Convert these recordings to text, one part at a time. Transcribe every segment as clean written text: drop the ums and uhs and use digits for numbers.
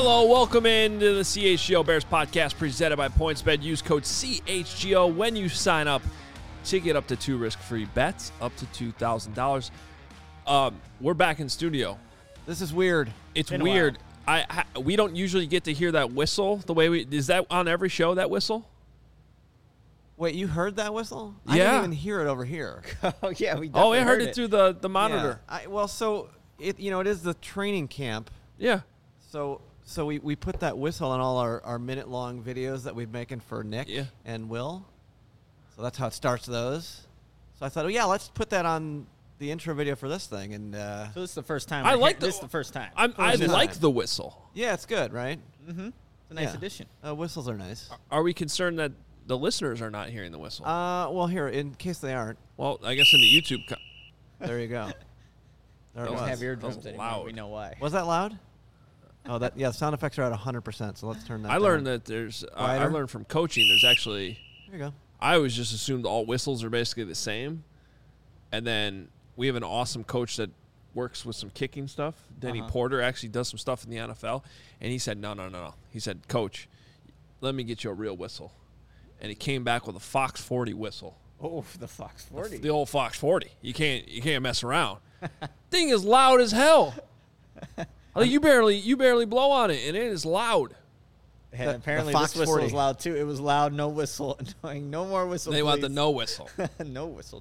Hello, welcome into the CHGO Bears podcast presented by PointsBet. Use code CHGO when you sign up to get up to 2 risk-free bets, up to $2,000. We're back in studio. This is weird. It's weird. We don't usually get to hear that whistle the way we. Is that on every show, that whistle? Wait, you heard that whistle? Yeah. I didn't even hear it over here. Oh, yeah, we definitely Oh, I heard it through the monitor. Yeah. It is the training camp. Yeah. So we put that whistle on all our minute-long videos that we're making for Nick and Will. So that's how it starts those. So I thought, let's put that on the intro video for this thing. And So this is the first time. This is the first time. I like the whistle. yeah, it's good, right? Mm-hmm. It's a nice addition. Whistles are nice. Are we concerned that the listeners are not hearing the whistle? Well, here, in case they aren't. Well, I guess in the YouTube. There you go. There it Don't was. have eardrums That was anymore. loud. We know why. Was that loud? Oh, sound effects are at 100%, so let's turn that I down. learned that there's. I learned from coaching. There's actually. There you go. I always just assumed all whistles are basically the same, and then we have an awesome coach that works with some kicking stuff. Denny Porter actually does some stuff in the NFL, and he said, no. He said, Coach, let me get you a real whistle, and he came back with a Fox 40 whistle. Oh, the Fox 40. The old Fox 40. You can't mess around. Thing is loud as hell. Like you barely blow on it, and it is loud. And apparently Fox this whistle 40. was loud too. It was loud, no whistle. No more whistle. They want the please. no whistle. No whistle.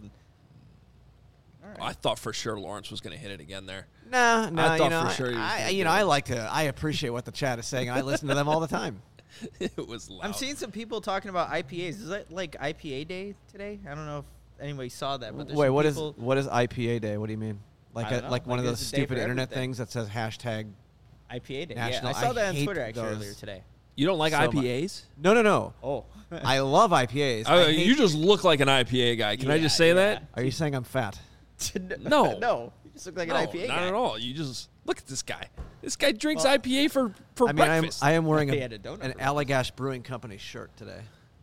All right. I thought for sure Lawrence was going to hit it again there. No, I thought for sure he was gonna do it. I appreciate what the chat is saying. I listen to them all the time. It was loud. I'm seeing some people talking about IPAs. Is that like IPA day today? I don't know if anybody saw that. But Wait, what is is IPA day? What do you mean? I don't know. Like one of Like those it's a day stupid for internet everything. things that says hashtag. IPA day? National- Yeah, I saw I that on hate Twitter actually those. earlier today. You don't like So much. IPAs? No. Oh, I love IPAs. You just look like an IPA guy. Can I just say that? Are you saying I'm fat? No. no. You just look like No, an IPA not guy. at all. You just look at this guy. This guy drinks IPA for I mean, breakfast. I am wearing He had a donut an for Allagash Brewing Company shirt today.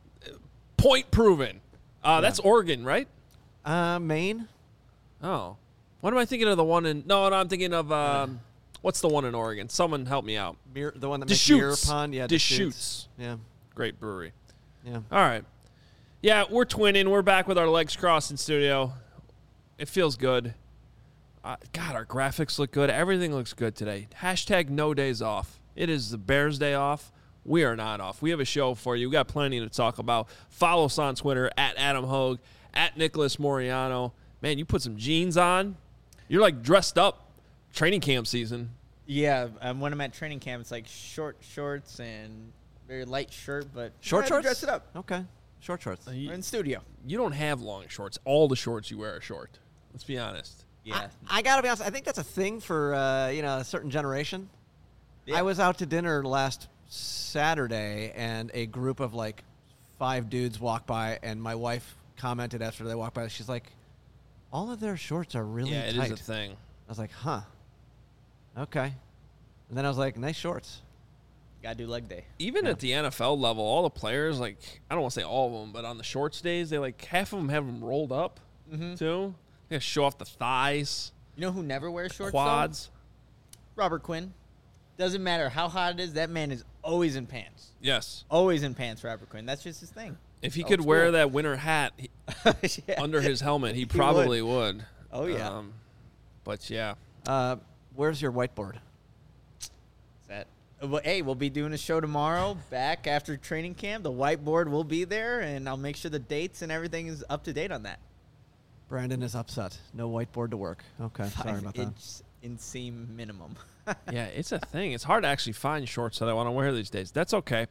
Point proven. That's Oregon, right? Maine. Oh. What am I thinking of? The one in? No, I'm thinking of what's the one in Oregon? Someone help me out. The one that Deschutes. makes Mirror Pond. Yeah, Deschutes. Yeah, Great brewery. yeah. All right. Yeah, we're twinning. We're back with our legs crossed in studio. It feels good. God, our graphics look good. Everything looks good today. Hashtag no days off. It is the Bears day off. We are not off. We have a show for you. We got plenty to talk about. Follow us on Twitter at Adam Hogue, at Nicholas Moriano. Man, you put some jeans on. You're like dressed up. Training camp season. Yeah, when I'm at training camp, it's like short shorts and very light shirt, but Short shorts. dress it up. Okay. Short shorts. We're in studio. You don't have long shorts. All the shorts you wear are short. Let's be honest. Yeah. I gotta be honest. I think that's a thing for a certain generation. Yeah. I was out to dinner last Saturday, and a group of like 5 dudes walked by, and my wife commented after they walked by. She's like, "All of their shorts are really Yeah, it tight." is a thing. I was like, "Huh, okay." And then I was like, "Nice shorts." Gotta do leg day. Even Yeah. at the NFL level, all the players, like, I don't want to say all of them, but on the shorts days, they like half of them have them rolled up too. They gotta show off the thighs, You know who never wears shorts? quads. Though? Robert Quinn. Doesn't matter how hot it is, that man is always in pants. Yes. Always in pants, Robert Quinn. That's just his thing. If he Old could wear school. that winter hat Yeah. under his helmet, he probably would. Oh, yeah. But yeah. Where's your whiteboard? That. Well, hey, we'll be doing a show tomorrow back after training camp. The whiteboard will be there, and I'll make sure the dates and everything is up to date on that. Brandon is upset. No whiteboard to work. Okay, sorry about that. 5-inch inseam minimum. Yeah, it's a thing. It's hard to actually find shorts that I want to wear these days. That's okay.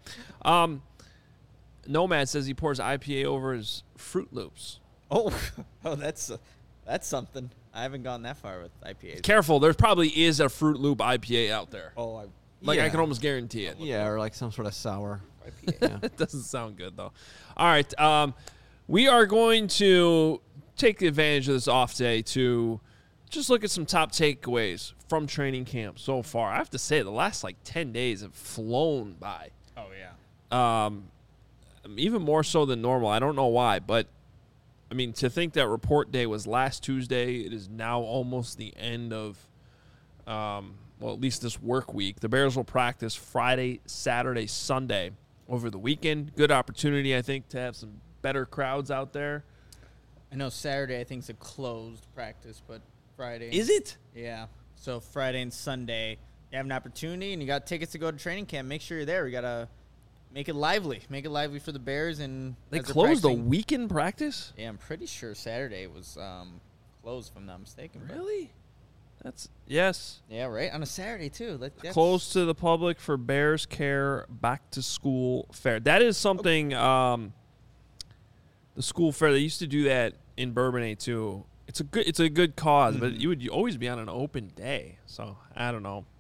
Nomad says he pours IPA over his Fruit Loops. Oh, that's something. I haven't gone that far with IPAs. Careful, there probably is a Fruit Loop IPA out there. Oh, I Yeah. can almost guarantee it. Yeah, or like some sort of sour. IPA. Yeah. It doesn't sound good, though. All right. We are going to take advantage of this off day to just look at some top takeaways from training camp so far. I have to say, the last, 10 days have flown by. Oh, yeah. Even more so than normal. I don't know why, but, I mean, to think that report day was last Tuesday, it is now almost the end of well, at least this work week. The Bears will practice Friday, Saturday, Sunday over the weekend. Good opportunity, I think, to have some better crowds out there. I know Saturday, I think, is a closed practice, but Friday. Is it? Yeah. So Friday and Sunday, you have an opportunity, and you got tickets to go to training camp. Make sure you're there. We got to make it lively. Make it lively for the Bears. And they closed the weekend practice? Yeah, I'm pretty sure Saturday was closed, if I'm not mistaken. Really? Yes. Yeah, right. On a Saturday, too. Closed to the public for Bears Care Back to School Fair. That is something, the school fair, they used to do that in Bourbonnais, too. It's a good cause, but you would always be on an open day. So, I don't know.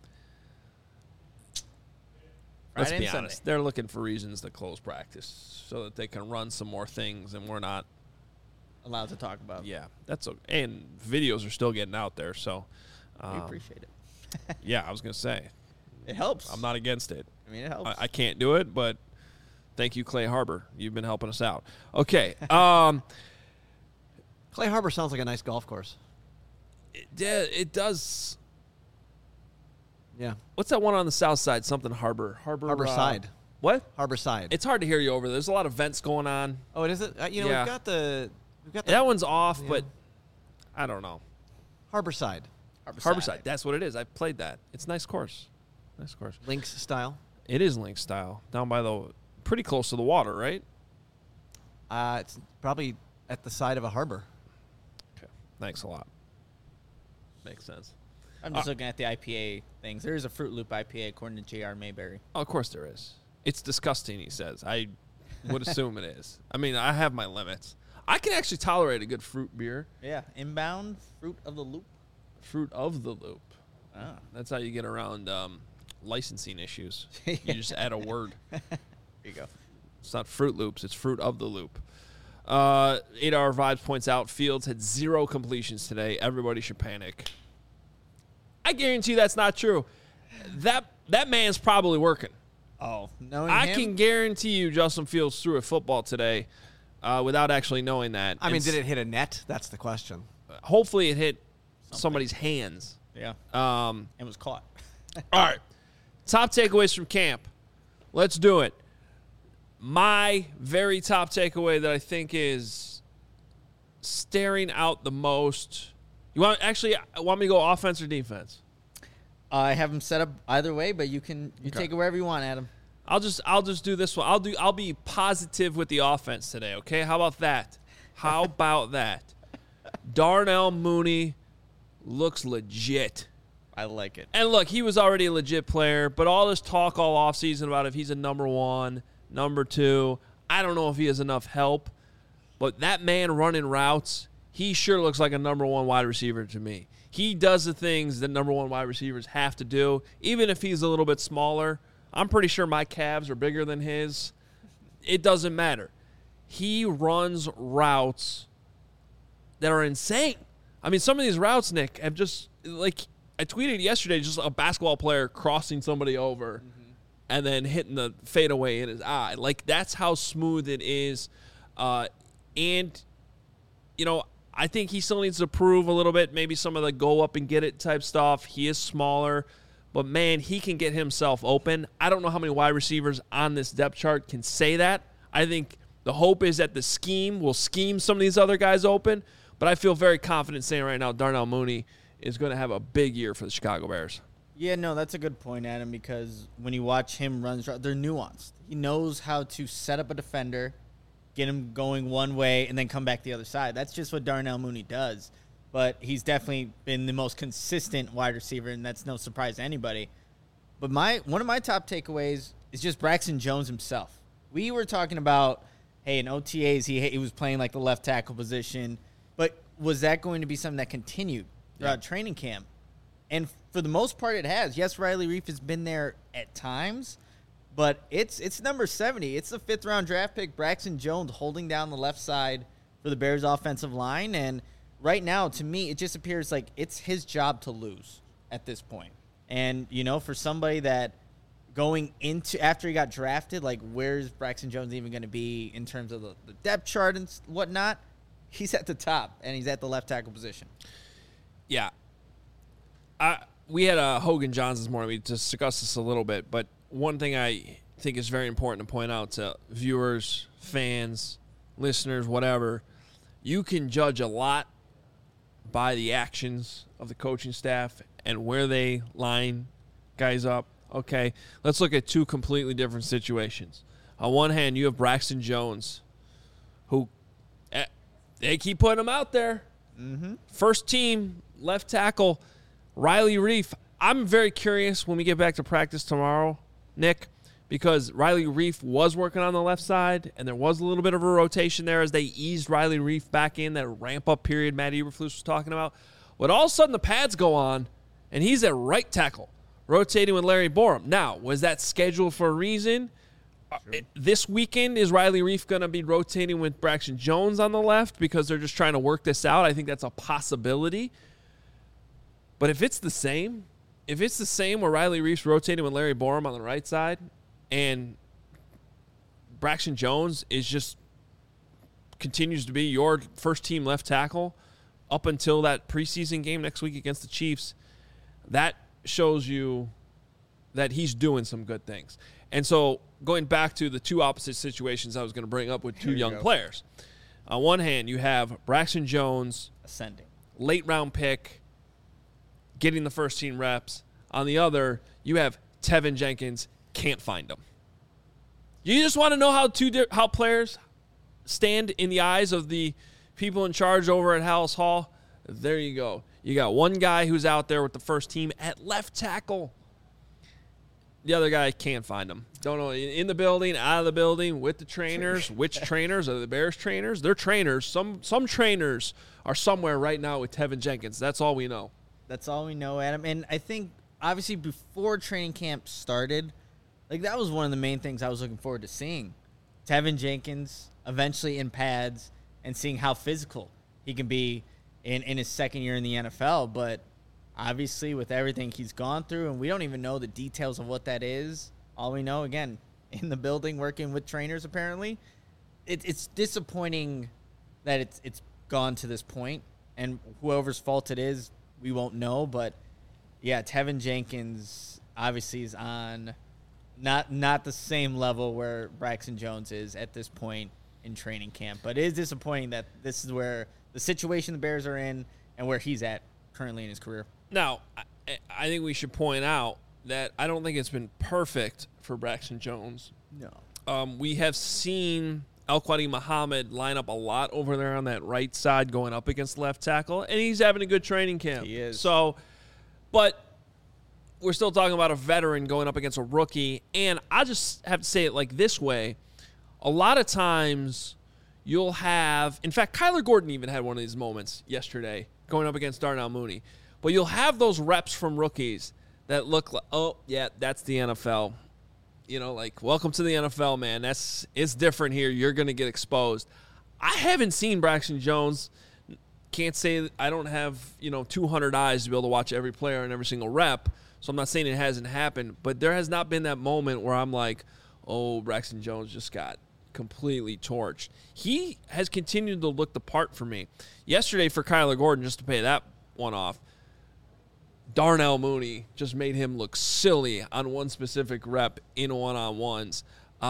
Let's be honest. They're looking for reasons to close practice so that they can run some more things, and we're not allowed to talk about. Yeah, that's okay. And videos are still getting out there, so we appreciate it. Yeah, I was gonna say it helps. I'm not against it. I mean, it helps. I can't do it, but thank you, Clay Harbor. You've been helping us out. Okay. Clay Harbor sounds like a nice golf course. It does. Yeah. What's that one on the south side? Something Harbor Side. What? Harbor Side. It's hard to hear you over there. There's a lot of vents going on. Oh, it is it? Yeah. We've got the that one's off, but I don't know. Harbor Side. Harbor Side. That's what it is. I played that. It's a nice course. Nice course. Links style. It is links style. Down by pretty close to the water, right? It's probably at the side of a harbor. Okay. Thanks a lot. Makes sense. I'm just looking at the IPA things. There is a Fruit Loop IPA according to J.R. Mayberry. Oh, of course there is. It's disgusting, he says. I would assume it is. I mean, I have my limits. I can actually tolerate a good fruit beer. Yeah. Inbound Fruit of the Loop. Fruit of the Loop. Oh. That's how you get around licensing issues. You just add a word. There you go. It's not Fruit Loops. It's Fruit of the Loop. 8-Hour Vibes points out Fields had 0 completions today. Everybody should panic. I guarantee that's not true. That man's probably working. Oh, I can guarantee you Justin Fields threw a football today without actually knowing that. I mean, did it hit a net? That's the question. Hopefully it hit somebody's hands. Yeah. And was caught. All right. Top takeaways from camp. Let's do it. My very top takeaway that I think is staring out the most. You want me to go offense or defense? I have them set up either way, but you take it wherever you want, Adam. I'll just do this one. I'll be positive with the offense today, okay? How about that? Darnell Mooney looks legit. I like it. And look, he was already a legit player, but all this talk all offseason about if he's a number 1, number 2, I don't know if he has enough help, but that man running routes, he sure looks like a number 1 wide receiver to me. He does the things that number 1 wide receivers have to do, even if he's a little bit smaller. I'm pretty sure my calves are bigger than his. It doesn't matter. He runs routes that are insane. I mean, some of these routes, Nick, have just, like, I tweeted yesterday, just a basketball player crossing somebody over and then hitting the fadeaway in his eye. Like, that's how smooth it is. And, I think he still needs to prove a little bit, maybe some of the go up and get it type stuff. He is smaller, but, man, he can get himself open. I don't know how many wide receivers on this depth chart can say that. I think the hope is that the scheme will scheme some of these other guys open, but I feel very confident saying right now Darnell Mooney is going to have a big year for the Chicago Bears. Yeah, no, that's a good point, Adam, because when you watch him run, they're nuanced. He knows how to set up a defender, get him going one way, and then come back the other side. That's just what Darnell Mooney does. But he's definitely been the most consistent wide receiver, and that's no surprise to anybody. But one of my top takeaways is just Braxton Jones himself. We were talking about, hey, in OTAs, he was playing like the left tackle position, but was that going to be something that continued throughout training camp? And for the most part, it has. Yes, Riley Reiff has been there at times, but it's number 70. It's the 5th-round draft pick, Braxton Jones, holding down the left side for the Bears' offensive line. And right now, to me, it just appears like it's his job to lose at this point. And, for somebody that going into after he got drafted, like, where's Braxton Jones even going to be in terms of the depth chart and whatnot? He's at the top, and he's at the left tackle position. Yeah. we had Hogan Johns this morning. We discussed this a little bit, but one thing I think is very important to point out to viewers, fans, listeners, whatever, you can judge a lot by the actions of the coaching staff and where they line guys up. Okay, let's look at two completely different situations. On one hand, you have Braxton Jones, who they keep putting him out there. Mm-hmm. First team left tackle, Riley Reiff. I'm very curious when we get back to practice tomorrow, Nick, because Riley Reiff was working on the left side, and there was a little bit of a rotation there as they eased Riley Reiff back in, that ramp-up period Matt Eberflus was talking about. But all of a sudden the pads go on, and he's at right tackle, rotating with Larry Borom. Now, was that scheduled for a reason? This weekend, is Riley Reiff going to be rotating with Braxton Jones on the left because they're just trying to work this out? I think that's a possibility. But if it's the same where Riley Reiff's rotating with Larry Borom on the right side and Braxton Jones continues to be your first team left tackle up until that preseason game next week against the Chiefs, that shows you that he's doing some good things. And so going back to the two opposite situations I was going to bring up with two young players. On one hand, you have Braxton Jones, ascending, late round pick, getting the first team reps. On the other, you have Tevin Jenkins, can't find him. You just want to know how players stand in the eyes of the people in charge over at Hallis Hall? There you go. You got one guy who's out there with the first team at left tackle. The other guy can't find him. Don't know, in the building, out of the building, with the trainers. Which trainers? Are the Bears trainers? They're trainers. Some trainers are somewhere right now with Tevin Jenkins. That's all we know. That's all we know, Adam. And I think, obviously, before training camp started, that was one of the main things I was looking forward to seeing. Tevin Jenkins eventually in pads and seeing how physical he can be in his second year in the NFL. But obviously, with everything he's gone through, and we don't even know the details of what that is. All we know, again, in the building, working with trainers, apparently, it's disappointing that it's gone to this point. And whoever's fault it is, we won't know. But, yeah, Tevin Jenkins obviously is on not the same level where Braxton Jones is at this point in training camp. But it is disappointing that this is where the situation the Bears are in and where he's at currently in his career. Now, I think we should point out that I don't think it's been perfect for Braxton Jones. No. We have seen Al-Quadi Muhammad line up a lot over there on that right side going up against left tackle, and he's having a good training camp. He is. So, but we're still talking about a veteran going up against a rookie, and I just have to say it like this way. A lot of times you'll have – in fact, Kyler Gordon even had one of these moments yesterday going up against Darnell Mooney. But you'll have those reps from rookies that look like, oh, yeah, that's the NFL. Welcome to the NFL, man. It's different here. You're going to get exposed. I haven't seen Braxton Jones. Can't say that I don't have, 200 eyes to be able to watch every player and every single rep. So I'm not saying it hasn't happened. But there has not been that moment where I'm like, oh, Braxton Jones just got completely torched. He has continued to look the part for me. Yesterday for Kyler Gordon, just to pay that one off, Darnell Mooney just made him look silly on one specific rep in one-on-ones.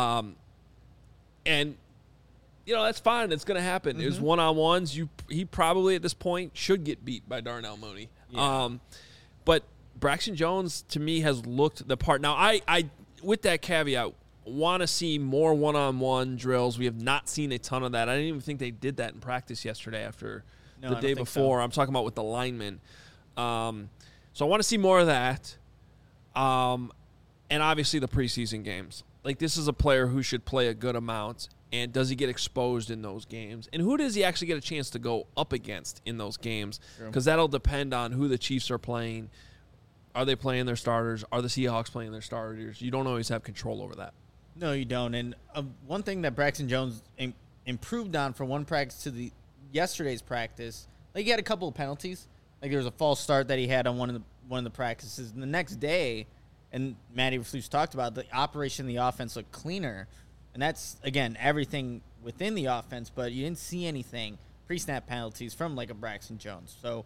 And, that's fine. It's going to happen. Mm-hmm. It was one-on-ones. He probably at this point should get beat by Darnell Mooney. Yeah. But Braxton Jones, to me, has looked the part. Now, I with that caveat, want to see more one-on-one drills. We have not seen a ton of that. I didn't even think they did that in practice yesterday after the day before. So. I'm talking about with the linemen. So I want to see more of that. And obviously the preseason games. This is a player who should play a good amount. And does he get exposed in those games? And who does he actually get a chance to go up against in those games? Because that'll depend on who the Chiefs are playing. Are they playing their starters? Are the Seahawks playing their starters? You don't always have control over that. No, you don't. And one thing that Braxton Jones improved on from one practice to yesterday's practice, he had a couple of penalties. There was a false start that he had on one of the practices. And the next day, and Matt Eberflus talked about, the operation of the offense looked cleaner. And that's, again, everything within the offense. But you didn't see anything, pre-snap penalties from a Braxton Jones. So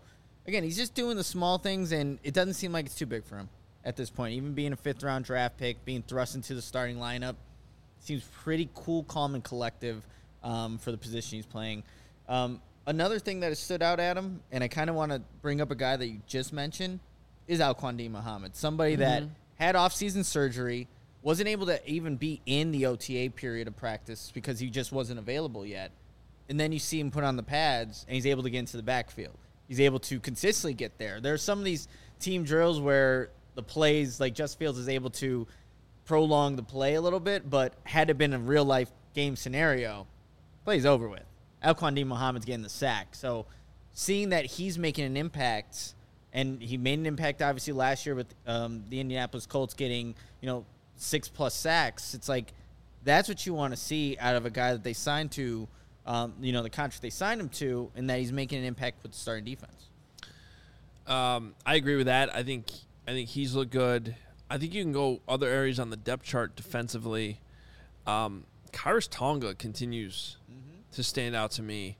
again, he's just doing the small things, and it doesn't seem like it's too big for him at this point. Even being a 5th-round draft pick, being thrust into the starting lineup, seems pretty cool, calm, and collective for the position he's playing. Another thing that has stood out at him, and I kind of want to bring up a guy that you just mentioned, is Alquandine Muhammad, somebody that had off-season surgery, wasn't able to even be in the OTA period of practice because he just wasn't available yet. And then you see him put on the pads, and he's able to get into the backfield. He's able to consistently get there. There are some of these team drills where the plays, like Justin Fields is able to prolong the play a little bit, but had it been a real-life game scenario, play's over with. Alquandine Muhammad's getting the sack. So seeing that he's making an impact, and he made an impact obviously last year with the Indianapolis Colts getting, 6+ sacks, it's like that's what you want to see out of a guy that they signed to, the contract they signed him to, and that he's making an impact with the starting defense. I agree with that. I think he's looked good. I think you can go other areas on the depth chart defensively. Khyiris Tonga continues to stand out to me.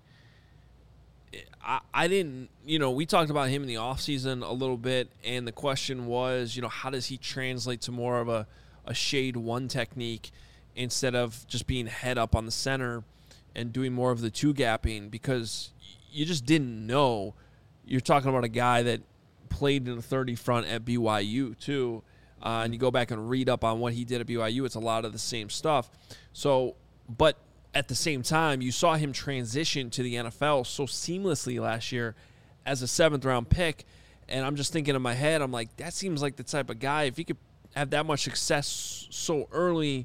I didn't, we talked about him in the offseason a little bit, and the question was, how does he translate to more of a shade one technique instead of just being head up on the center and doing more of the two-gapping, because you just didn't know. You're talking about a guy that played in the 30 front at BYU too, and you go back and read up on what he did at BYU, it's a lot of the same stuff. So, but at the same time, you saw him transition to the NFL so seamlessly last year as a 7th-round pick, and I'm just thinking in my head, I'm like, that seems like the type of guy, if he could have that much success so early,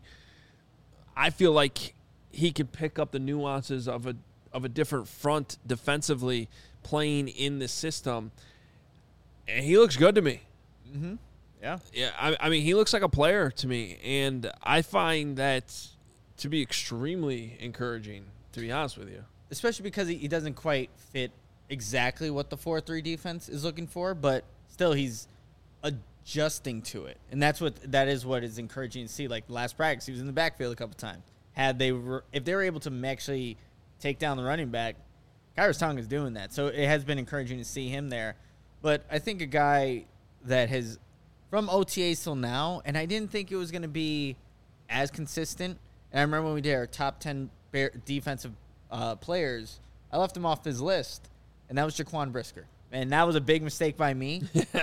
I feel like he could pick up the nuances of a different front defensively playing in this system, and he looks good to me. Mm-hmm. Yeah. Yeah, I mean, he looks like a player to me, and I find that to be extremely encouraging, to be honest with you. Especially because he doesn't quite fit exactly what the 4-3 defense is looking for, but still he's adjusting to it. And that is what is encouraging to see. Like last practice, he was in the backfield a couple times. If they were able to actually take down the running back, Khyiris Tonga is doing that. So it has been encouraging to see him there. But I think a guy that has, from OTAs till now, and I didn't think it was going to be as consistent. And I remember when we did our top 10 defensive players, I left him off his list, and that was Jaquan Brisker. And that was a big mistake by me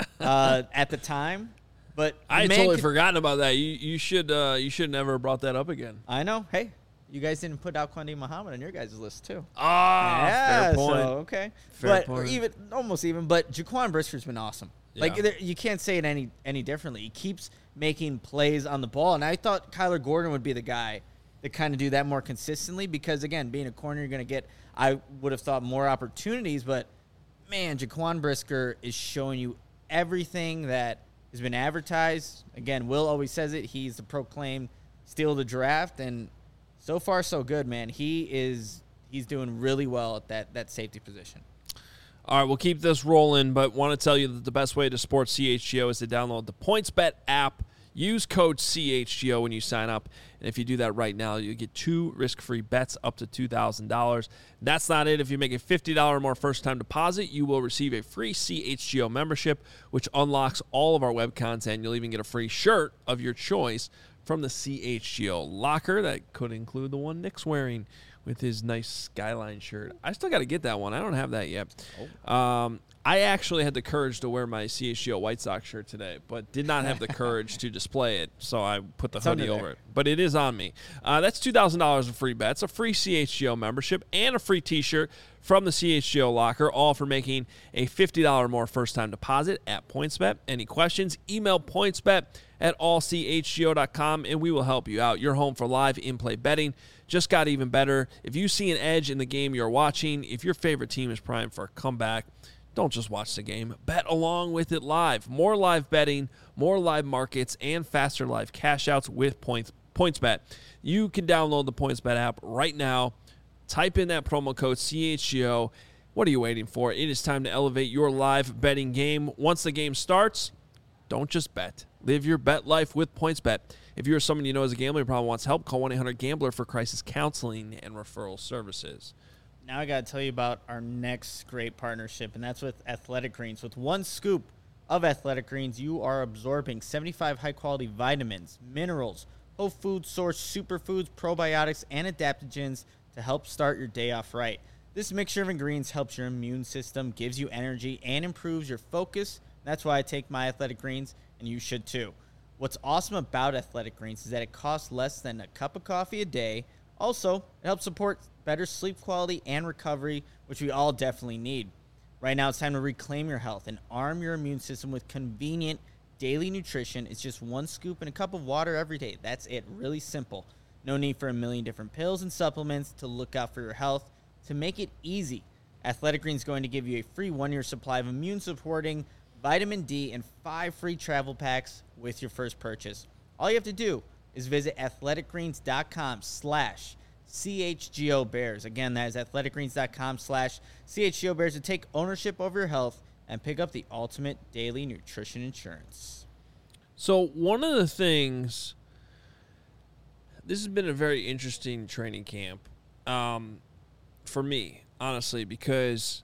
at the time. But I had totally forgotten about that. You should never have brought that up again. I know. Hey, you guys didn't put Alquandine Muhammad on your guys' list too. Fair point. So, okay, fair point. Almost even. But Jaquan Brisker's been awesome. Yeah. Like you can't say it any differently. He keeps making plays on the ball, and I thought Kyler Gordon would be the guy to kind of do that more consistently because, again, being a corner, you're going to get, I would have thought, more opportunities. But, man, Jaquan Brisker is showing you everything that has been advertised. Again, Will always says it. He's the proclaimed steal of the draft, and so far so good, man. He's doing really well at that safety position. All right, we'll keep this rolling, but want to tell you that the best way to support CHGO is to download the PointsBet app. Use code CHGO when you sign up, and if you do that right now, you get 2 risk-free bets up to $2,000. That's not it. If you make a $50 or more first-time deposit, you will receive a free CHGO membership, which unlocks all of our web content. You'll even get a free shirt of your choice from the CHGO locker. That could include the one Nick's wearing with his nice Skyline shirt. I still got to get that one. I don't have that yet. I actually had the courage to wear my CHGO White Sox shirt today, but did not have the courage to display it, so I put the hoodie over it. But it is on me. That's $2,000 in free bets, a free CHGO membership, and a free T-shirt from the CHGO locker, all for making a $50 or more first-time deposit at PointsBet. Any questions? Email pointsbet@allchgo.com, and we will help you out. Your home for live in-play betting just got even better. If you see an edge in the game you're watching, if your favorite team is primed for a comeback, don't just watch the game. Bet along with it live. More live betting, more live markets, and faster live cash outs with PointsBet. You can download the PointsBet app right now. Type in that promo code CHGO. What are you waiting for? It is time to elevate your live betting game. Once the game starts, don't just bet. Live your bet life with PointsBet. If you're someone you know has a gambling problem, wants help, call 1-800-GAMBLER for crisis counseling and referral services. Now I got to tell you about our next great partnership, and that's with Athletic Greens. With one scoop of Athletic Greens, you are absorbing 75 high-quality vitamins, minerals, whole food source superfoods, probiotics, and adaptogens to help start your day off right. This mixture of ingredients helps your immune system, gives you energy, and improves your focus. That's why I take my Athletic Greens, and you should too. What's awesome about Athletic Greens is that it costs less than a cup of coffee a day. Also, it helps support better sleep quality and recovery, which we all definitely need. Right now, it's time to reclaim your health and arm your immune system with convenient daily nutrition. It's just one scoop and a cup of water every day. That's it. Really simple. No need for a million different pills and supplements to look out for your health. To make it easy, Athletic Greens is going to give you a free 1-year supply of immune-supporting vitamin D and 5 free travel packs with your first purchase. All you have to do is visit athleticgreens.com/CHGOBears. Again, that is athleticgreens.com/CHGOBears to take ownership over your health and pick up the ultimate daily nutrition insurance. So one of the things, this has been a very interesting training camp for me, honestly, because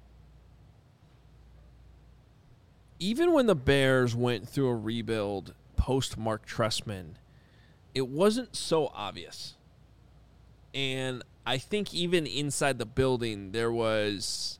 even when the Bears went through a rebuild post Mark Trestman, it wasn't so obvious. And I think even inside the building, there was,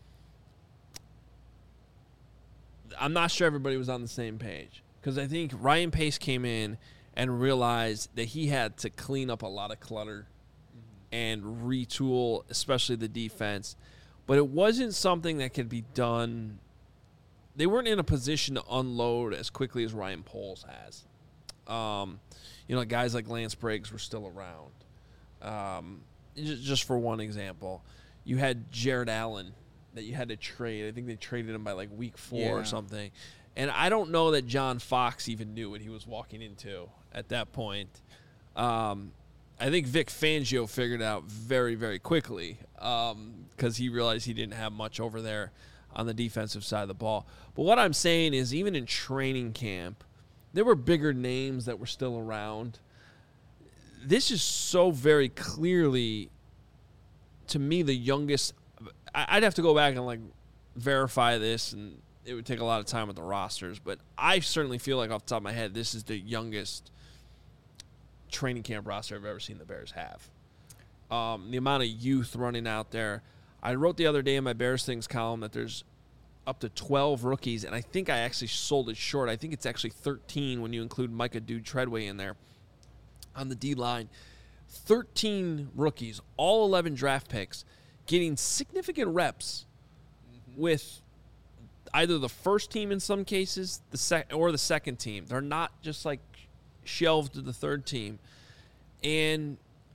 I'm not sure everybody was on the same page. Because I think Ryan Pace came in and realized that he had to clean up a lot of clutter and retool, especially the defense. But it wasn't something that could be done. They weren't in a position to unload as quickly as Ryan Poles has. Guys like Lance Briggs were still around. Just for one example, you had Jared Allen that you had to trade. I think they traded him by like week 4 or something. And I don't know that John Fox even knew what he was walking into at that point. I think Vic Fangio figured it out very, very quickly because he realized he didn't have much over there on the defensive side of the ball. But what I'm saying is even in training camp, there were bigger names that were still around. This is so very clearly, to me, the youngest. I'd have to go back and verify this, and it would take a lot of time with the rosters. But I certainly feel like off the top of my head, this is the youngest training camp roster I've ever seen the Bears have. The amount of youth running out there. I wrote the other day in my Bears Things column that there's up to 12 rookies, and I think I actually sold it short. I think it's actually 13 when you include Micah Dude Treadway in there on the D-line. 13 rookies, all 11 draft picks, getting significant reps with either the first team in some cases, the second team. They're not just shelved to the third team. And,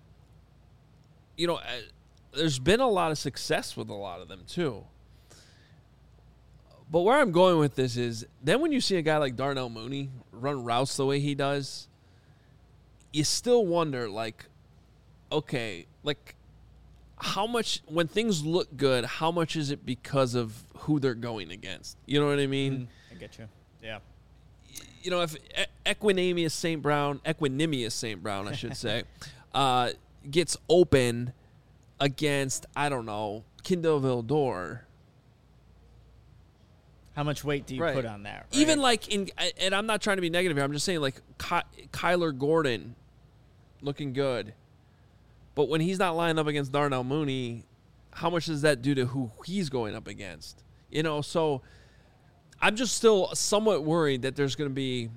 there's been a lot of success with a lot of them too. But where I'm going with this is then when you see a guy like Darnell Mooney run routes the way he does, you still wonder, how much, when things look good, how much is it because of who they're going against? You know what I mean? I get you. Yeah. If Equinemius St. Brown, I should say, gets open against, I don't know, Kindle Vildor. How much weight do you put on that? Right? Even and I'm not trying to be negative here. I'm just saying Kyler Gordon looking good. But when he's not lining up against Darnell Mooney, how much does that do to who he's going up against? So I'm just still somewhat worried that there's going to be,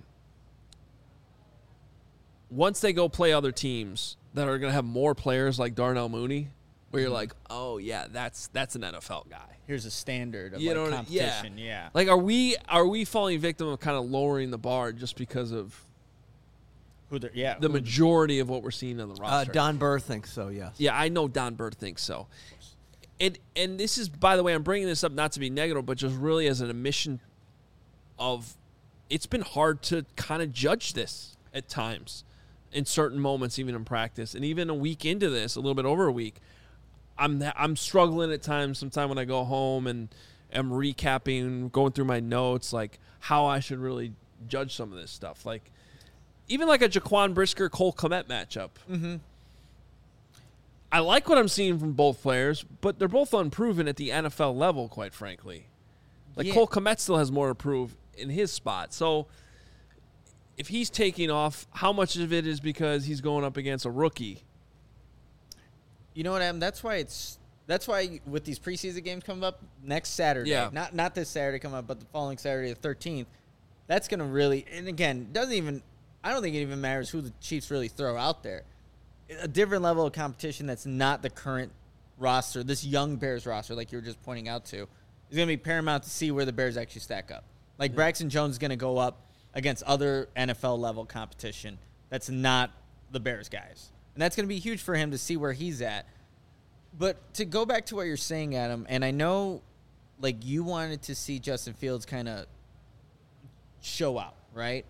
once they go play other teams that are going to have more players like Darnell Mooney, where you're like, oh, yeah, that's an NFL guy. Here's a standard of competition. Yeah. Are we falling victim of kind of lowering the bar just because of the majority of what we're seeing on the roster? Don Burr thinks so, yes. Yeah, I know Don Burr thinks so. And this is, by the way, I'm bringing this up not to be negative, but just really as an admission of it's been hard to kind of judge this at times in certain moments, even in practice. And even a week into this, a little bit over a week, I'm struggling at times. Sometime when I go home and am recapping, going through my notes, how I should really judge some of this stuff. Even a Jaquan Brisker Cole Kmet matchup. Mm-hmm. I like what I'm seeing from both players, but they're both unproven at the NFL level, quite frankly. Like Cole Kmet still has more to prove in his spot. So if he's taking off, how much of it is because he's going up against a rookie? You know what, Adam? That's why with these preseason games coming up next Saturday, not this Saturday coming up, but the following Saturday, the 13th, that's going to really, and again, I don't think it even matters who the Chiefs really throw out there. A different level of competition that's not the current roster, this young Bears roster, like you were just pointing out to, is going to be paramount to see where the Bears actually stack up. Like Braxton Jones is going to go up against other NFL level competition that's not the Bears guys. And that's going to be huge for him to see where he's at. But to go back to what you're saying, Adam, and I know like you wanted to see Justin Fields kind of show out, right?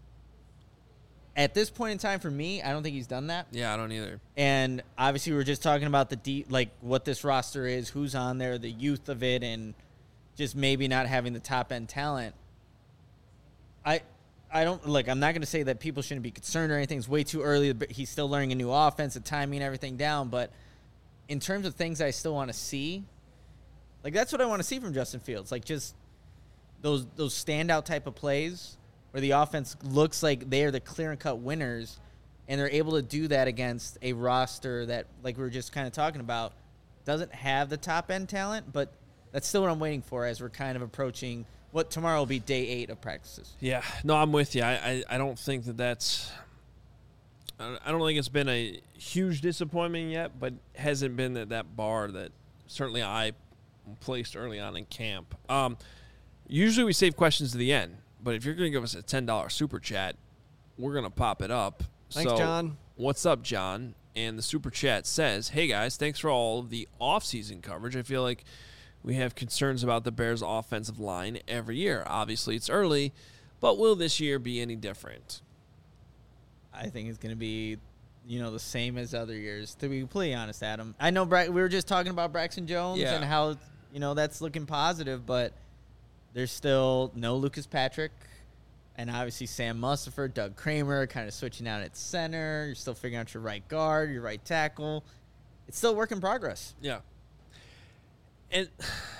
At this point in time, for me, I don't think he's done that. Yeah, I don't either. And obviously, we were just talking about what this roster is, who's on there, the youth of it, and just maybe not having the top end talent. I don't I'm not going to say that people shouldn't be concerned or anything. It's way too early. He's still learning a new offense, the timing, everything down. But in terms of things I still want to see, like that's what I want to see from Justin Fields. Like just those standout type of plays where the offense looks like they are the clear-and-cut winners, and they're able to do that against a roster that, like we were just kind of talking about, doesn't have the top-end talent, but that's still what I'm waiting for as we're kind of approaching what tomorrow will be day 8 of practices. Yeah. No, I'm with you. I don't think that's – I don't think it's been a huge disappointment yet, but hasn't been at that bar that certainly I placed early on in camp. Usually we save questions to the end. But if you're going to give us a $10 super chat, we're going to pop it up. Thanks, John. What's up, John? And the super chat says, hey, guys, thanks for all of the offseason coverage. I feel like we have concerns about the Bears' offensive line every year. Obviously, it's early, but will this year be any different? I think it's going to be, the same as other years, to be completely honest, Adam. I know we were just talking about Braxton Jones and how, that's looking positive, but – there's still no Lucas Patrick, and obviously Sam Mustipher, Doug Kramer kind of switching out at center. You're still figuring out your right guard, your right tackle. It's still a work in progress. Yeah. And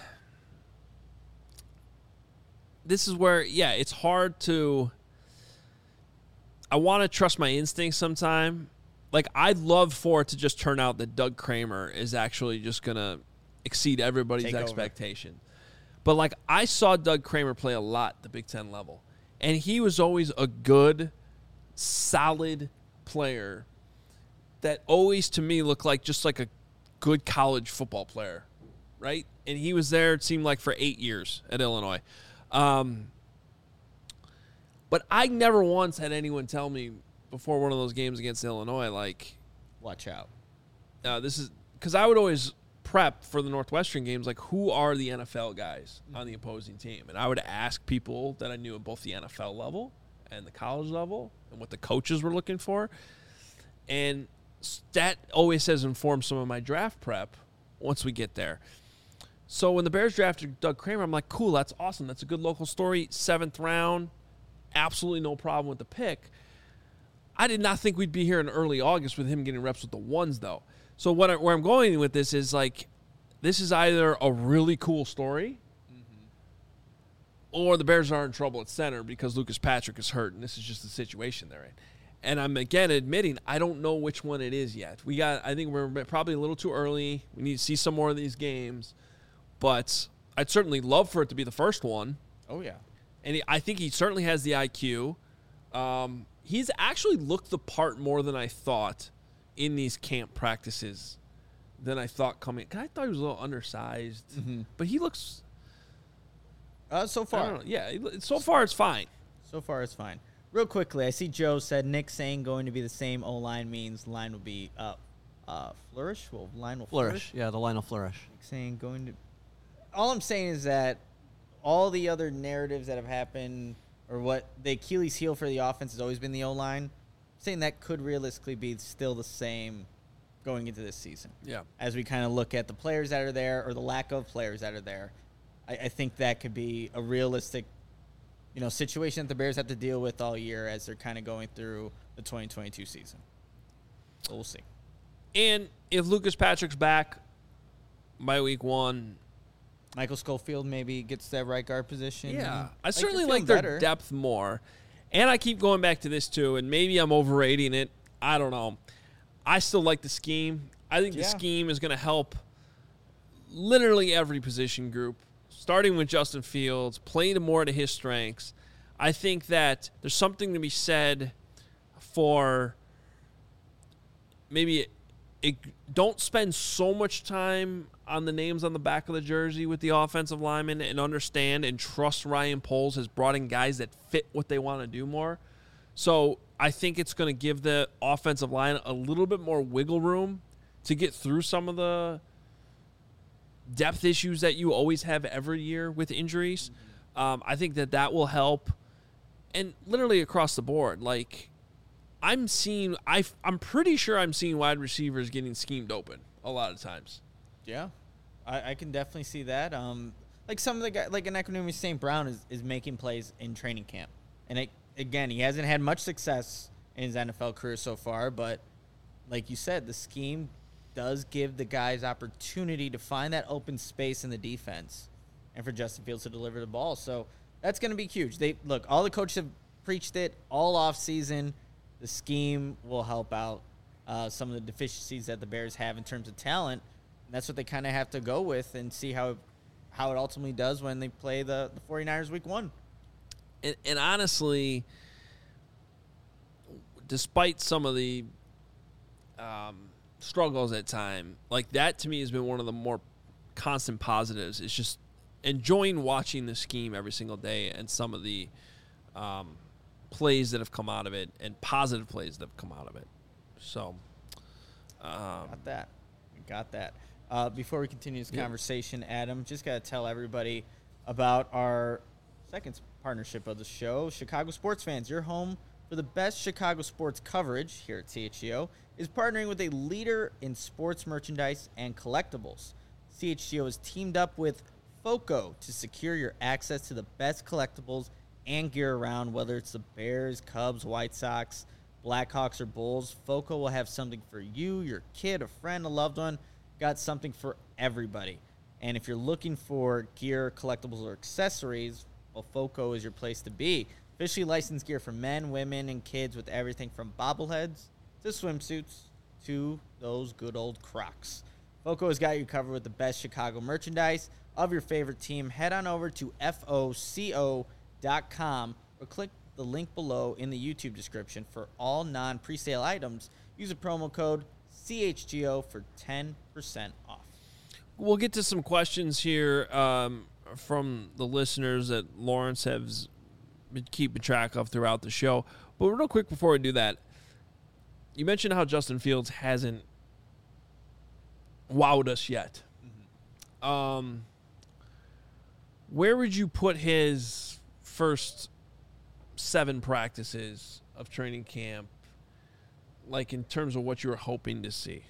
this is where, it's hard to – I want to trust my instincts sometime. Like, I'd love for it to just turn out that Doug Kramer is actually just going to exceed everybody's expectation. But, like, I saw Doug Kramer play a lot at the Big Ten level, and he was always a good, solid player that always, to me, looked like just like a good college football player, right? And he was there, it seemed like, for 8 years at Illinois. But I never once had anyone tell me before one of those games against Illinois, like, watch out. This is because I would always prep for the Northwestern games, like, who are the NFL guys on the opposing team? And I would ask people that I knew at both the NFL level and the college level and what the coaches were looking for. And that always has informed some of my draft prep once we get there. So when the Bears drafted Doug Kramer, I'm like, cool, that's awesome. That's a good local story. 7th round, absolutely no problem with the pick. I did not think we'd be here in early August with him getting reps with the ones, though. So where I'm going with this is, like, this is either a really cool story or the Bears are in trouble at center because Lucas Patrick is hurt, and this is just the situation they're in. And I'm, again, admitting I don't know which one it is yet. I think we're probably a little too early. We need to see some more of these games. But I'd certainly love for it to be the first one. Oh, yeah. And I think he certainly has the IQ. He's actually looked the part more than I thought in these camp practices than I thought coming. I thought he was a little undersized. But he looks... so far. So far it's fine. So far it's fine. Real quickly, I see Joe said Nick saying going to be the same O-line means the line will be flourish. Well, line will flourish. Yeah, the line will flourish. Nick saying going to... All I'm saying is that all the other narratives that have happened, or what the Achilles heel for the offense has always been the O-line, saying that could realistically be still the same going into this season. Yeah. As we kind of look at the players that are there, or the lack of players that are there, I think that could be a realistic, situation that the Bears have to deal with all year as they're kind of going through the 2022 season. So we'll see. And if Lucas Patrick's back by week 1, Michael Schofield maybe gets that right guard position. Yeah, I certainly like their depth more. And I keep going back to this too, and maybe I'm overrating it. I don't know. I still like the scheme. I think the scheme is going to help literally every position group, starting with Justin Fields, playing more to his strengths. I think that there's something to be said for maybe don't spend so much time on the names on the back of the jersey with the offensive linemen, and understand and trust Ryan Poles has brought in guys that fit what they want to do more. So I think it's going to give the offensive line a little bit more wiggle room to get through some of the depth issues that you always have every year with injuries. I think that will help. And literally across the board, like I'm pretty sure I'm seeing wide receivers getting schemed open a lot of times. Yeah, I can definitely see that. Like some of the guys, like an Equanimeous St. Brown is making plays in training camp. And again, he hasn't had much success in his NFL career so far, but like you said, the scheme does give the guys opportunity to find that open space in the defense and for Justin Fields to deliver the ball. So that's going to be huge. Look, all the coaches have preached it all off season. The scheme will help out some of the deficiencies that the Bears have in terms of talent. And that's what they kind of have to go with and see how it ultimately does when they play the 49ers week 1. And honestly, despite some of the struggles at time, like that to me has been one of the more constant positives. It's just enjoying watching the scheme every single day and some of the plays that have come out of it and positive plays that have come out of it. So, Got that. Before we continue this conversation, Adam, just got to tell everybody about our second partnership of the show. Chicago Sports Fans, your home for the best Chicago sports coverage here at CHGO, is partnering with a leader in sports merchandise and collectibles. CHGO has teamed up with FOCO to secure your access to the best collectibles and gear around, whether it's the Bears, Cubs, White Sox, Blackhawks, or Bulls. FOCO will have something for you, your kid, a friend, a loved one. Got something for everybody. And if you're looking for gear, collectibles, or accessories, well, FOCO is your place to be. Officially licensed gear for men, women, and kids with everything from bobbleheads to swimsuits to those good old Crocs. FOCO has got you covered with the best Chicago merchandise of your favorite team. Head on over to FOCO.com or click the link below in the YouTube description for all non-presale items. Use a promo code CHGO for 10% off. We'll get to some questions here from the listeners that Lawrence has been keeping track of throughout the show. But real quick before we do that, you mentioned how Justin Fields hasn't wowed us yet. Mm-hmm. Where would you put his first 7 practices of training camp, like in terms of what you were hoping to see?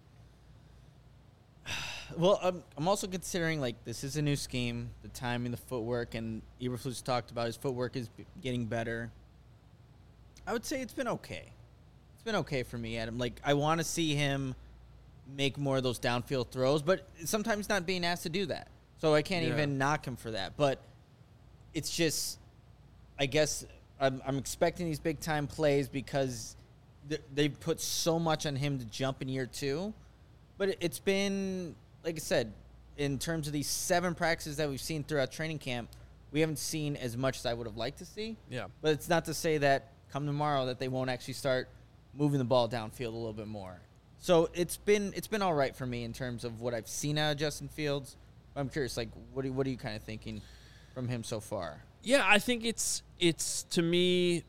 Well, I'm also considering, like, this is a new scheme, the timing, the footwork, and Eberflus talked about his footwork is getting better. I would say it's been okay. It's been okay for me, Adam. Like, I want to see him make more of those downfield throws, but sometimes not being asked to do that. So I can't even knock him for that. But it's just, I guess I'm expecting these big-time plays because they've put so much on him to jump in year 2. But it's been, like I said, in terms of these 7 practices that we've seen throughout training camp, we haven't seen as much as I would have liked to see. Yeah. But it's not to say that come tomorrow that they won't actually start moving the ball downfield a little bit more. So it's been all right for me in terms of what I've seen out of Justin Fields. I'm curious, like, what are you kind of thinking from him so far? Yeah, I think it's to me,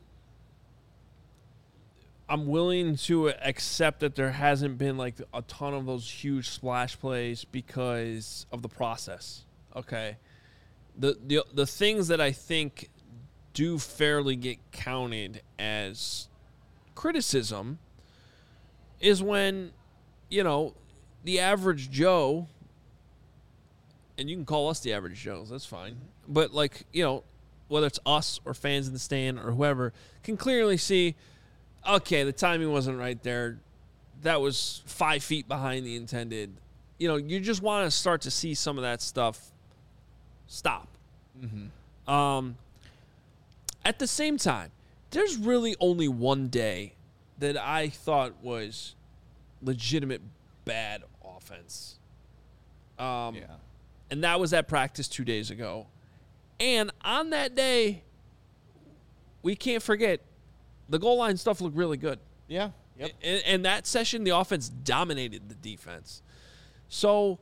I'm willing to accept that there hasn't been like a ton of those huge splash plays because of the process. Okay. The things that I think do fairly get counted as criticism is when, the average Joe, and you can call us the average Joes, that's fine. But whether it's us or fans in the stand or whoever, can clearly see, okay, the timing wasn't right there. that was 5 feet behind the intended. You know, you just want to start to see some of that stuff stop. Mm-hmm. At the same time, there's really only one day that I thought was legitimate bad offense. And that was at practice 2 days ago. And on that day, we can't forget, the goal line stuff looked really good. Yeah. Yep. And that session, the offense dominated the defense. So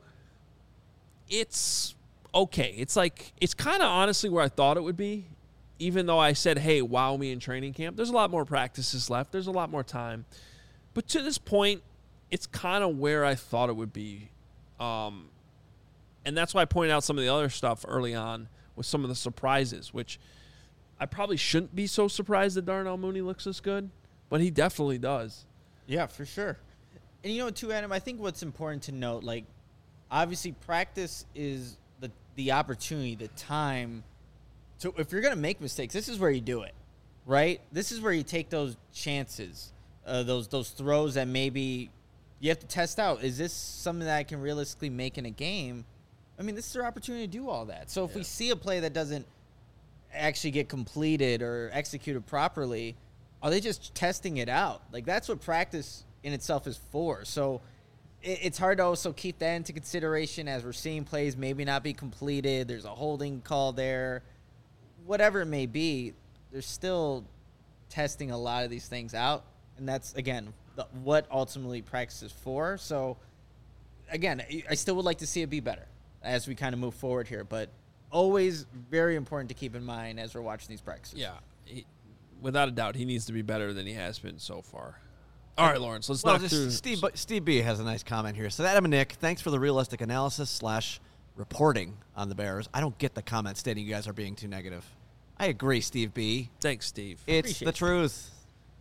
it's okay. It's like, it's kind of honestly where I thought it would be, even though I said, hey, wow me in training camp. There's a lot more practices left. There's a lot more time. But to this point, it's kind of where I thought it would be. And that's why I pointed out some of the other stuff early on with some of the surprises, which I probably shouldn't be so surprised that Darnell Mooney looks this good, but he definitely does. Yeah, for sure. And you know, too, Adam, I think what's important to note, like, obviously practice is the opportunity, the time. So if you're going to make mistakes, this is where you do it, right? This is where you take those chances, those throws that maybe you have to test out. Is this something that I can realistically make in a game? I mean, this is our opportunity to do all that. So if we see a play that doesn't actually get completed or executed properly, are they just testing it out? Like, that's what practice in itself is for. So it's hard to also keep that into consideration as we're seeing plays maybe not be completed. There's a holding call there. Whatever it may be, they're still testing a lot of these things out. And that's, again, what ultimately practice is for. So, again, I still would like to see it be better as we kind of move forward here. But always very important to keep in mind as we're watching these practices. Yeah. Without a doubt, he needs to be better than he has been so far. All right, Lawrence, let's knock through. Steve B has a nice comment here. So, Adam and Nick, thanks for the realistic analysis / reporting on the Bears. I don't get the comment stating you guys are being too negative. I agree, Steve B. Thanks, Steve. It's the truth.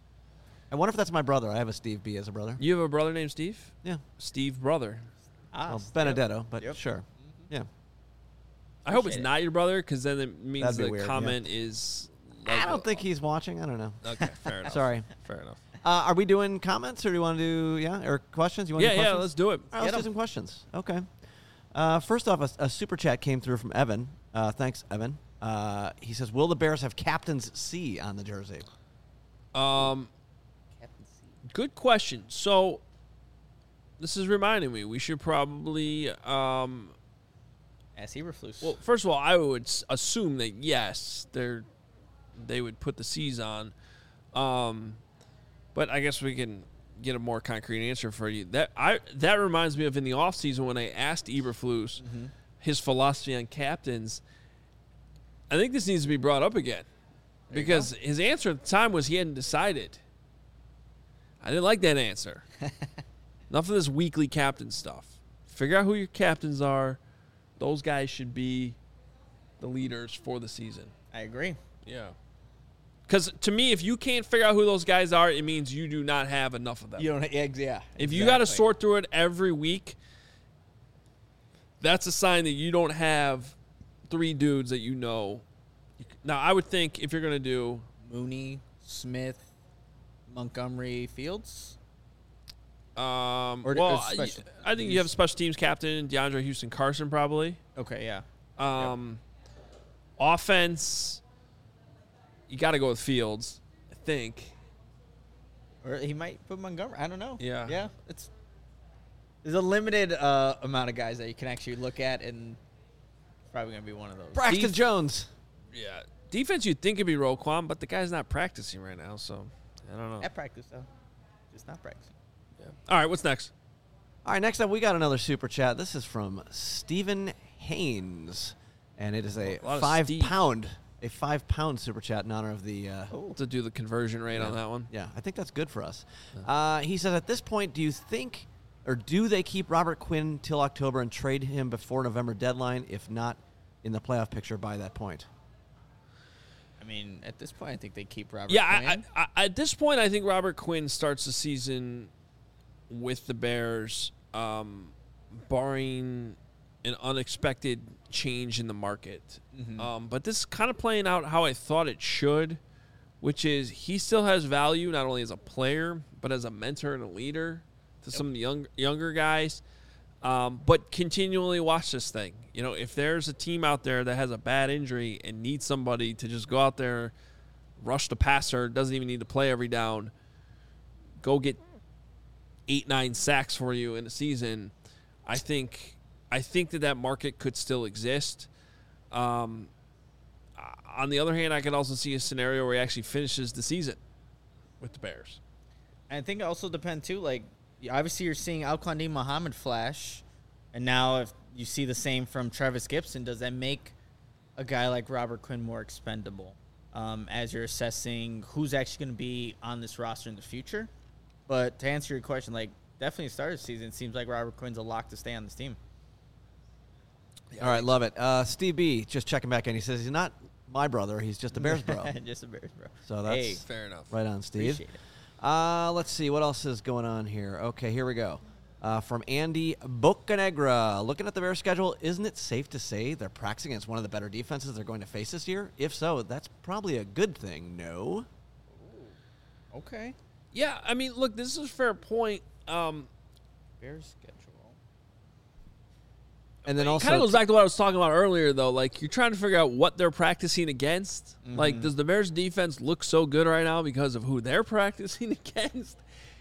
I wonder if that's my brother. I have a Steve B as a brother. You have a brother named Steve? Yeah. Steve brother. Well, Benedetto, but sure. Yeah. I hope it's not your brother, because then it means the weird, comment is... I don't think he's watching. I don't know. Okay, fair enough. Sorry. Fair enough. Are we doing comments, or do you want to do, or questions? You want to do questions? Let's do it. All right, let's do some questions. Okay. First off, a super chat came through from Evan. Thanks, Evan. He says, will the Bears have Captain's C on the jersey? Good question. So, this is reminding me, we should probably... As Eberflus. Well, first of all, I would assume that, yes, they would put the C's on. But I guess we can get a more concrete answer for you. That reminds me of in the offseason when I asked Eberflus his philosophy on captains. I think this needs to be brought up again. Because his answer at the time was he hadn't decided. I didn't like that answer. Enough of this weekly captain stuff. Figure out who your captains are. Those guys should be the leaders for the season. I agree. Yeah. Because to me, if you can't figure out who those guys are, it means you do not have enough of them. You don't. Yeah. If you got to sort through it every week, that's a sign that you don't have 3 dudes that you know. Now, I would think if you're going to do Mooney, Smith, Montgomery, Fields. I think you have special teams captain DeAndre Houston Carson probably. Okay, yeah. Offense, you got to go with Fields, I think. Or he might put Montgomery. I don't know. Yeah. Yeah. There's a limited amount of guys that you can actually look at, and it's probably going to be one of those. Braxton Jones. Yeah. Defense, you'd think it'd be Roquan, but the guy's not practicing right now, so I don't know. At practice, though. Just not practicing. Yeah. All right, what's next? All right, next up, we got another super chat. This is from Stephen Haynes, and it is a 5-pound super chat in honor of the to do the conversion rate on that one. Yeah, I think that's good for us. He says, at this point, do you think, or do they keep Robert Quinn till October and trade him before November deadline, if not in the playoff picture by that point? I mean, at this point, I think they keep Robert I Quinn. at this point, I think Robert Quinn starts the season with the Bears, barring an unexpected change in the market. But this is kind of playing out how I thought it should, which is he still has value not only as a player, but as a mentor and a leader. to some of the younger guys. But continually watch this thing. You know, if there's a team out there that has a bad injury and needs somebody to just go out there, rush the passer, doesn't even need to play every down, go get 8-9 sacks for you in a season, I think that market could still exist. On the other hand, I could also see a scenario where he actually finishes the season with the Bears. And I think it also depends, too. Like, obviously, you're seeing Al-Quadin Muhammad flash, and now if you see the same from Travis Gibson, does that make a guy like Robert Quinn more expendable as you're assessing who's actually going to be on this roster in the future? But to answer your question, like, definitely start of the season, it seems like Robert Quinn's a lock to stay on this team. All right, love it. Steve B, just checking back in. He says he's not my brother. He's just a Bears bro. Just a Bears bro. So that's fair enough. Right on, Steve. Appreciate it. Let's see. What else is going on here? Okay, here we go. From Andy Bocanegra. Looking at the Bears schedule, isn't it safe to say they're practicing against one of the better defenses they're going to face this year? If so, that's probably a good thing, no? Okay. Yeah, I mean, look, this is a fair point. Bears schedule. And then it also, kind of goes back to what I was talking about earlier, though. Like, you're trying to figure out what they're practicing against. Mm-hmm. Like, does the Bears defense look so good right now because of who they're practicing against?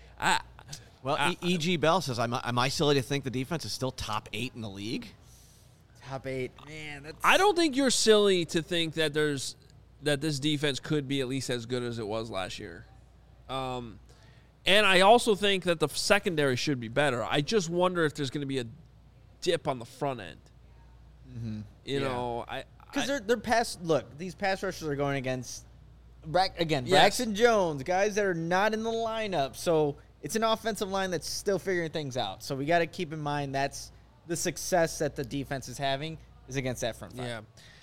E.G. Bell says, am I silly to think the defense is still top 8 in the league? Top 8. Man, that's... I don't think you're silly to think that this defense could be at least as good as it was last year. And I also think that the secondary should be better. I just wonder if there's going to be a dip on the front end. Mm-hmm. You know, because they're pass. Look, these pass rushers are going against Braxton Jones, guys that are not in the lineup. So it's an offensive line that's still figuring things out. So we got to keep in mind that's the success that the defense is having is against that front five. Yeah,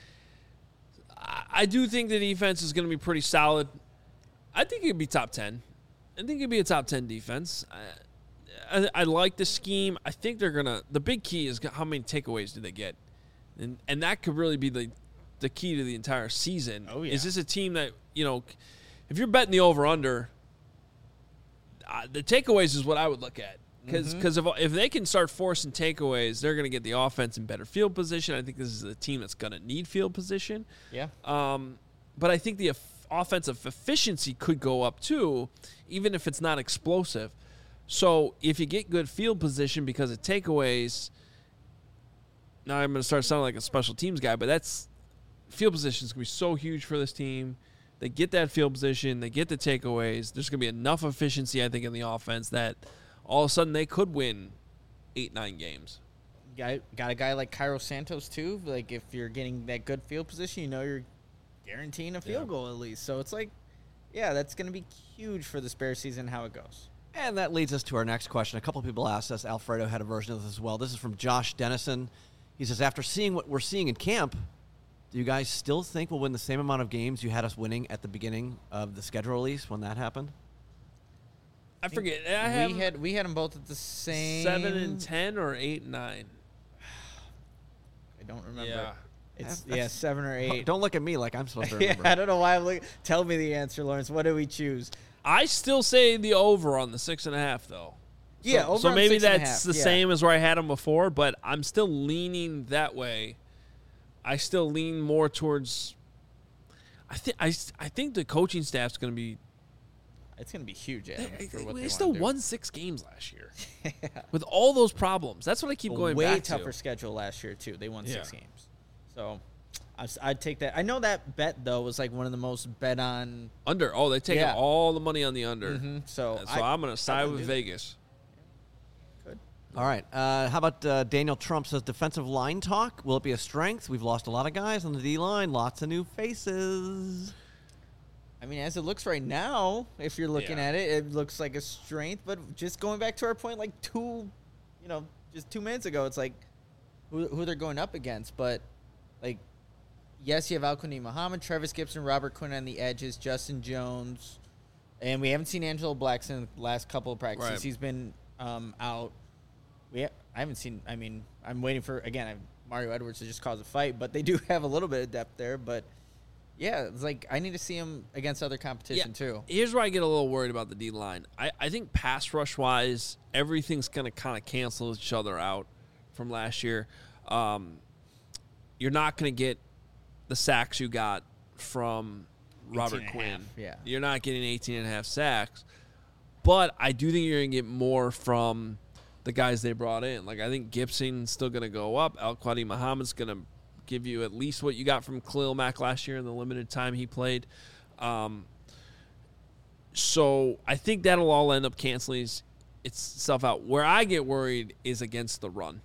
I do think the defense is going to be pretty solid. I think it could be top 10. I think it'd be a top 10 defense. I like the scheme. I think they're going to – the big key is how many takeaways do they get. And that could really be the key to the entire season. Oh, yeah. Is this a team that, you know, if you're betting the over-under, the takeaways is what I would look at. Because if they can start forcing takeaways, they're going to get the offense in better field position. I think this is a team that's going to need field position. Yeah. But I think the offensive efficiency could go up too, even if it's not explosive. So if you get good field position because of takeaways, now I'm going to start sounding like a special teams guy, but that's field position is going to be so huge for this team. They get that field position, they get the takeaways. There's going to be enough efficiency, I think, in the offense that all of a sudden they could win 8-9 games. Got a guy like Cairo Santos too. Like if you're getting that good field position, you know you're guaranteeing a field goal at least. So it's like, yeah, that's going to be huge for this Bears season, how it goes. And that leads us to our next question. A couple of people asked us. Alfredo had a version of this as well. This is from Josh Dennison. He says, after seeing what we're seeing in camp, do you guys still think we'll win the same amount of games you had us winning at the beginning of the schedule release when that happened? I forget. We had them both at the same 7-10 or 8-9. I don't remember. Yeah. It's 7 or 8. Don't look at me like I'm supposed to remember. Yeah, I don't know why I'm looking. Tell me the answer, Lawrence. What do we choose? I still say the over on the 6.5 though. Yeah, over so on maybe 6.5, that's the same as where I had them before, but I'm still leaning that way. I still lean more towards. I think the coaching staff's going to be. It's going to be huge. They still won 6 games last year with all those problems. That's what I keep going back to. Way tougher schedule last year too. They won 6 games, so I'd take that. I know that bet though was like one of the most bet on under. Oh, they take all the money on the under. Mm-hmm. So I'm going to side with Vegas. Good. All right. How about Daniel Trump says defensive line talk? Will it be a strength? We've lost a lot of guys on the D line. Lots of new faces. I mean, as it looks right now, if you're looking at it, it looks like a strength. But just going back to our point, like just 2 minutes ago, it's like who they're going up against. But like, yes, you have Al-Quadin Muhammad, Travis Gibson, Robert Quinn on the edges, Justin Jones, and we haven't seen Angelo Blackson in the last couple of practices. Right. He's been out. I haven't seen. I mean, I'm waiting for Mario Edwards to just cause a fight, but they do have a little bit of depth there. But Yeah, it's like I need to see him against other competition too. Here's where I get a little worried about the D-line. I think pass rush-wise, everything's going to kind of cancel each other out from last year. You're not going to get the sacks you got from Robert Quinn. Yeah. You're not getting 18.5 sacks. But I do think you're going to get more from the guys they brought in. Like, I think Gibson's still going to go up. Al-Quadi Muhammad's going to give you at least what you got from Khalil Mack last year in the limited time he played. So I think that'll all end up canceling itself out. Where I get worried is against the run.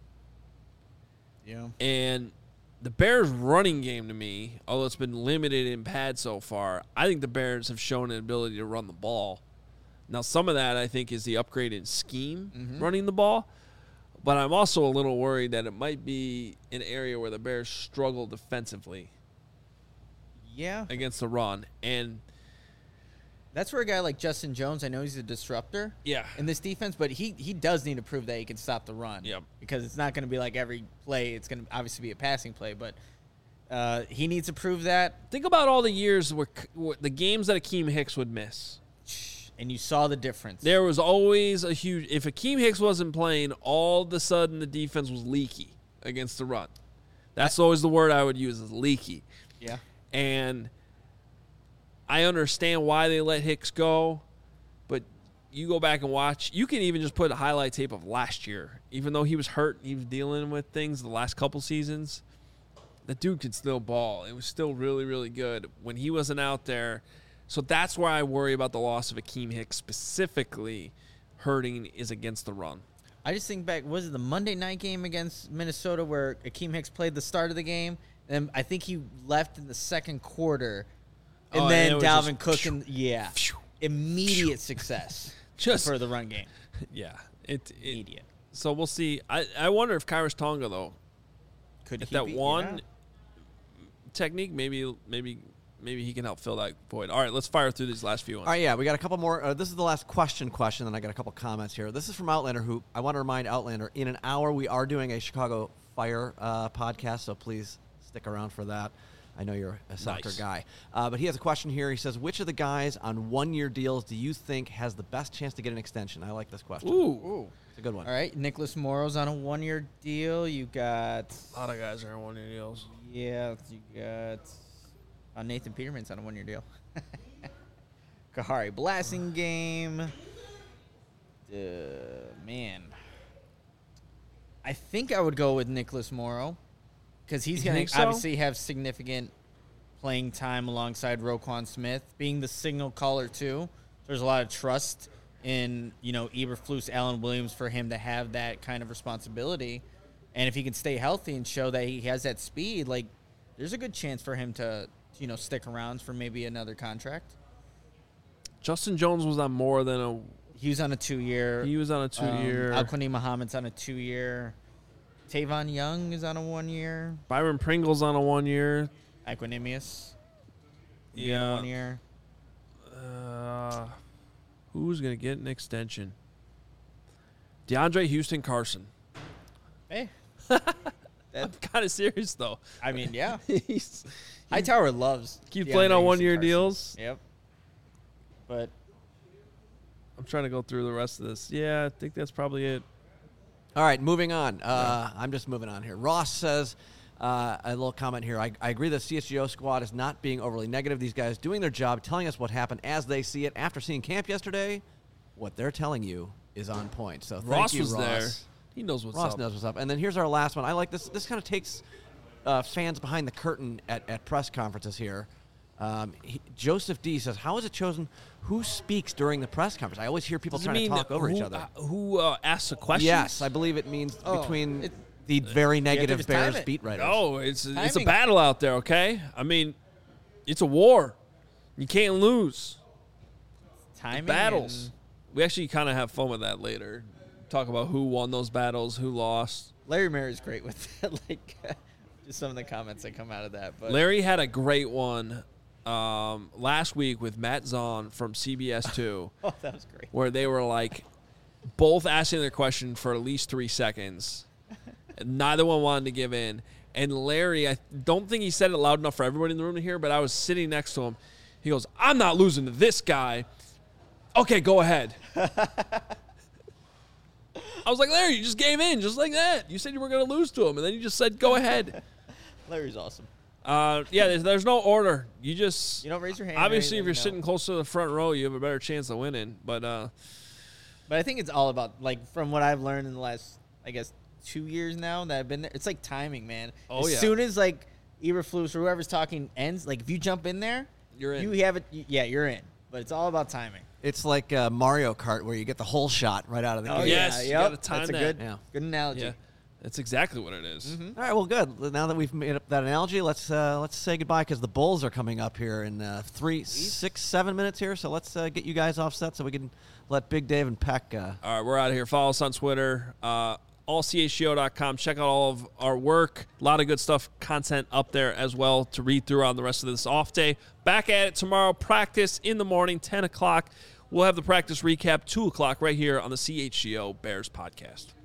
Yeah. And the Bears' running game to me, although it's been limited in pad so far, I think the Bears have shown an ability to run the ball. Now, some of that, I think, is the upgraded scheme running the ball. But I'm also a little worried that it might be an area where the Bears struggle defensively. Yeah. Against the run. And that's where a guy like Justin Jones, I know he's a disruptor in this defense, but he does need to prove that he can stop the run. Yep. Because it's not going to be like every play. It's going to obviously be a passing play, but he needs to prove that. Think about all the years where the games that Akeem Hicks would miss. And you saw the difference. There was always a huge – if Akeem Hicks wasn't playing, all of a sudden the defense was leaky against the run. That's always the word I would use is leaky. Yeah. And I understand why they let Hicks go, but you go back and watch. You can even just put a highlight tape of last year. Even though he was hurt, he was dealing with things the last couple seasons, the dude could still ball. It was still really, really good when he wasn't out there. So that's why I worry about the loss of Akeem Hicks specifically hurting is against the run. I just think back, was it the Monday night game against Minnesota where Akeem Hicks played the start of the game? And I think he left in the second quarter. And then Dalvin Cook, immediate success for the run game. Yeah. Immediate. So we'll see. I wonder if Khyiris Tonga, though, could if that one technique, maybe he can help fill that void. All right, let's fire through these last few ones. All right, yeah, we got a couple more. This is the last question, then I got a couple comments here. This is from Outlander, who I want to remind Outlander, in an hour we are doing a Chicago Fire podcast, so please stick around for that. I know you're a soccer guy. But he has a question here. He says, which of the guys on one-year deals do you think has the best chance to get an extension? I like this question. Ooh. It's a good one. All right, Nicholas Morrow's on a one-year deal. You got... A lot of guys are on one-year deals. Yeah, you got... Nathan Peterman's on a one-year deal. Kahari Blasingame. Man. I think I would go with Nicholas Morrow because he's going to obviously have significant playing time alongside Roquan Smith, being the signal caller too. There's a lot of trust in, Eberflus, Alan Williams for him to have that kind of responsibility. And if he can stay healthy and show that he has that speed, like there's a good chance for him to stick around for maybe another contract. Justin Jones was on more than a... He was on a 2-year. He was on a 2-year. Al-Quani Muhammad's on a 2-year. Tavon Young is on a 1-year. Byron Pringle's on a 1-year. Equanimous. Yeah. 1 year. Who's going to get an extension? DeAndre Houston Carson. Hey. I'm kind of serious, though. I mean, yeah. Hightower loves. Keep playing on one-year deals. Yep. But I'm trying to go through the rest of this. Yeah, I think that's probably it. All right, moving on. I'm just moving on here. Ross says, a little comment here. I agree that CSGO squad is not being overly negative. These guys doing their job, telling us what happened as they see it. After seeing camp yesterday, what they're telling you is on point. So thank you, Ross. There. He knows what's up. Ross knows what's up. And then here's our last one. I like this. This kind of takes fans behind the curtain at press conferences here. Joseph D says, how is it chosen who speaks during the press conference? I always hear people trying to talk over each other. Who asks the questions? Yes, I believe it means between the very negative Bears beat writers. No, it's a battle out there, okay? I mean, it's a war. You can't lose. Timing. Battles. We actually kind of have fun with that later. Talk about who won those battles, who lost. Larry Mary's great with that, just some of the comments that come out of that. But Larry had a great one last week with Matt Zahn from CBS 2. Oh, that was great. Where they were both asking their question for at least 3 seconds. Neither one wanted to give in. And Larry, I don't think he said it loud enough for everybody in the room to hear, but I was sitting next to him. He goes, I'm not losing to this guy. Okay, go ahead. I was like, Larry, you just gave in just like that. You said you were going to lose to him, and then you just said, go ahead. Larry's awesome. There's no order. You don't raise your hand. Obviously, if you're sitting close to the front row, you have a better chance of winning. But I think it's all about, like, from what I've learned in the last, I guess, 2 years now that I've been there, it's like timing, man. As soon as, like, Eberflus or whoever's talking ends, like, if you jump in there, you're in. You have it. Yeah, you're in. But it's all about timing. It's like Mario Kart where you get the whole shot right out of the gate. Oh, yes. You got to time That's that. a good analogy. Yeah. That's exactly what it is. Mm-hmm. All right, well, good. Now that we've made up that analogy, let's say goodbye because the Bulls are coming up here in 3, 6, 7 minutes here. So let's get you guys offset so we can let Big Dave and Peck. All right, we're out of here. Follow us on Twitter, allchgo.com. Check out all of our work. A lot of good stuff, content up there as well to read through on the rest of this off day. Back at it tomorrow. Practice in the morning, 10 o'clock. We'll have the practice recap, 2 o'clock right here on the CHGO Bears podcast.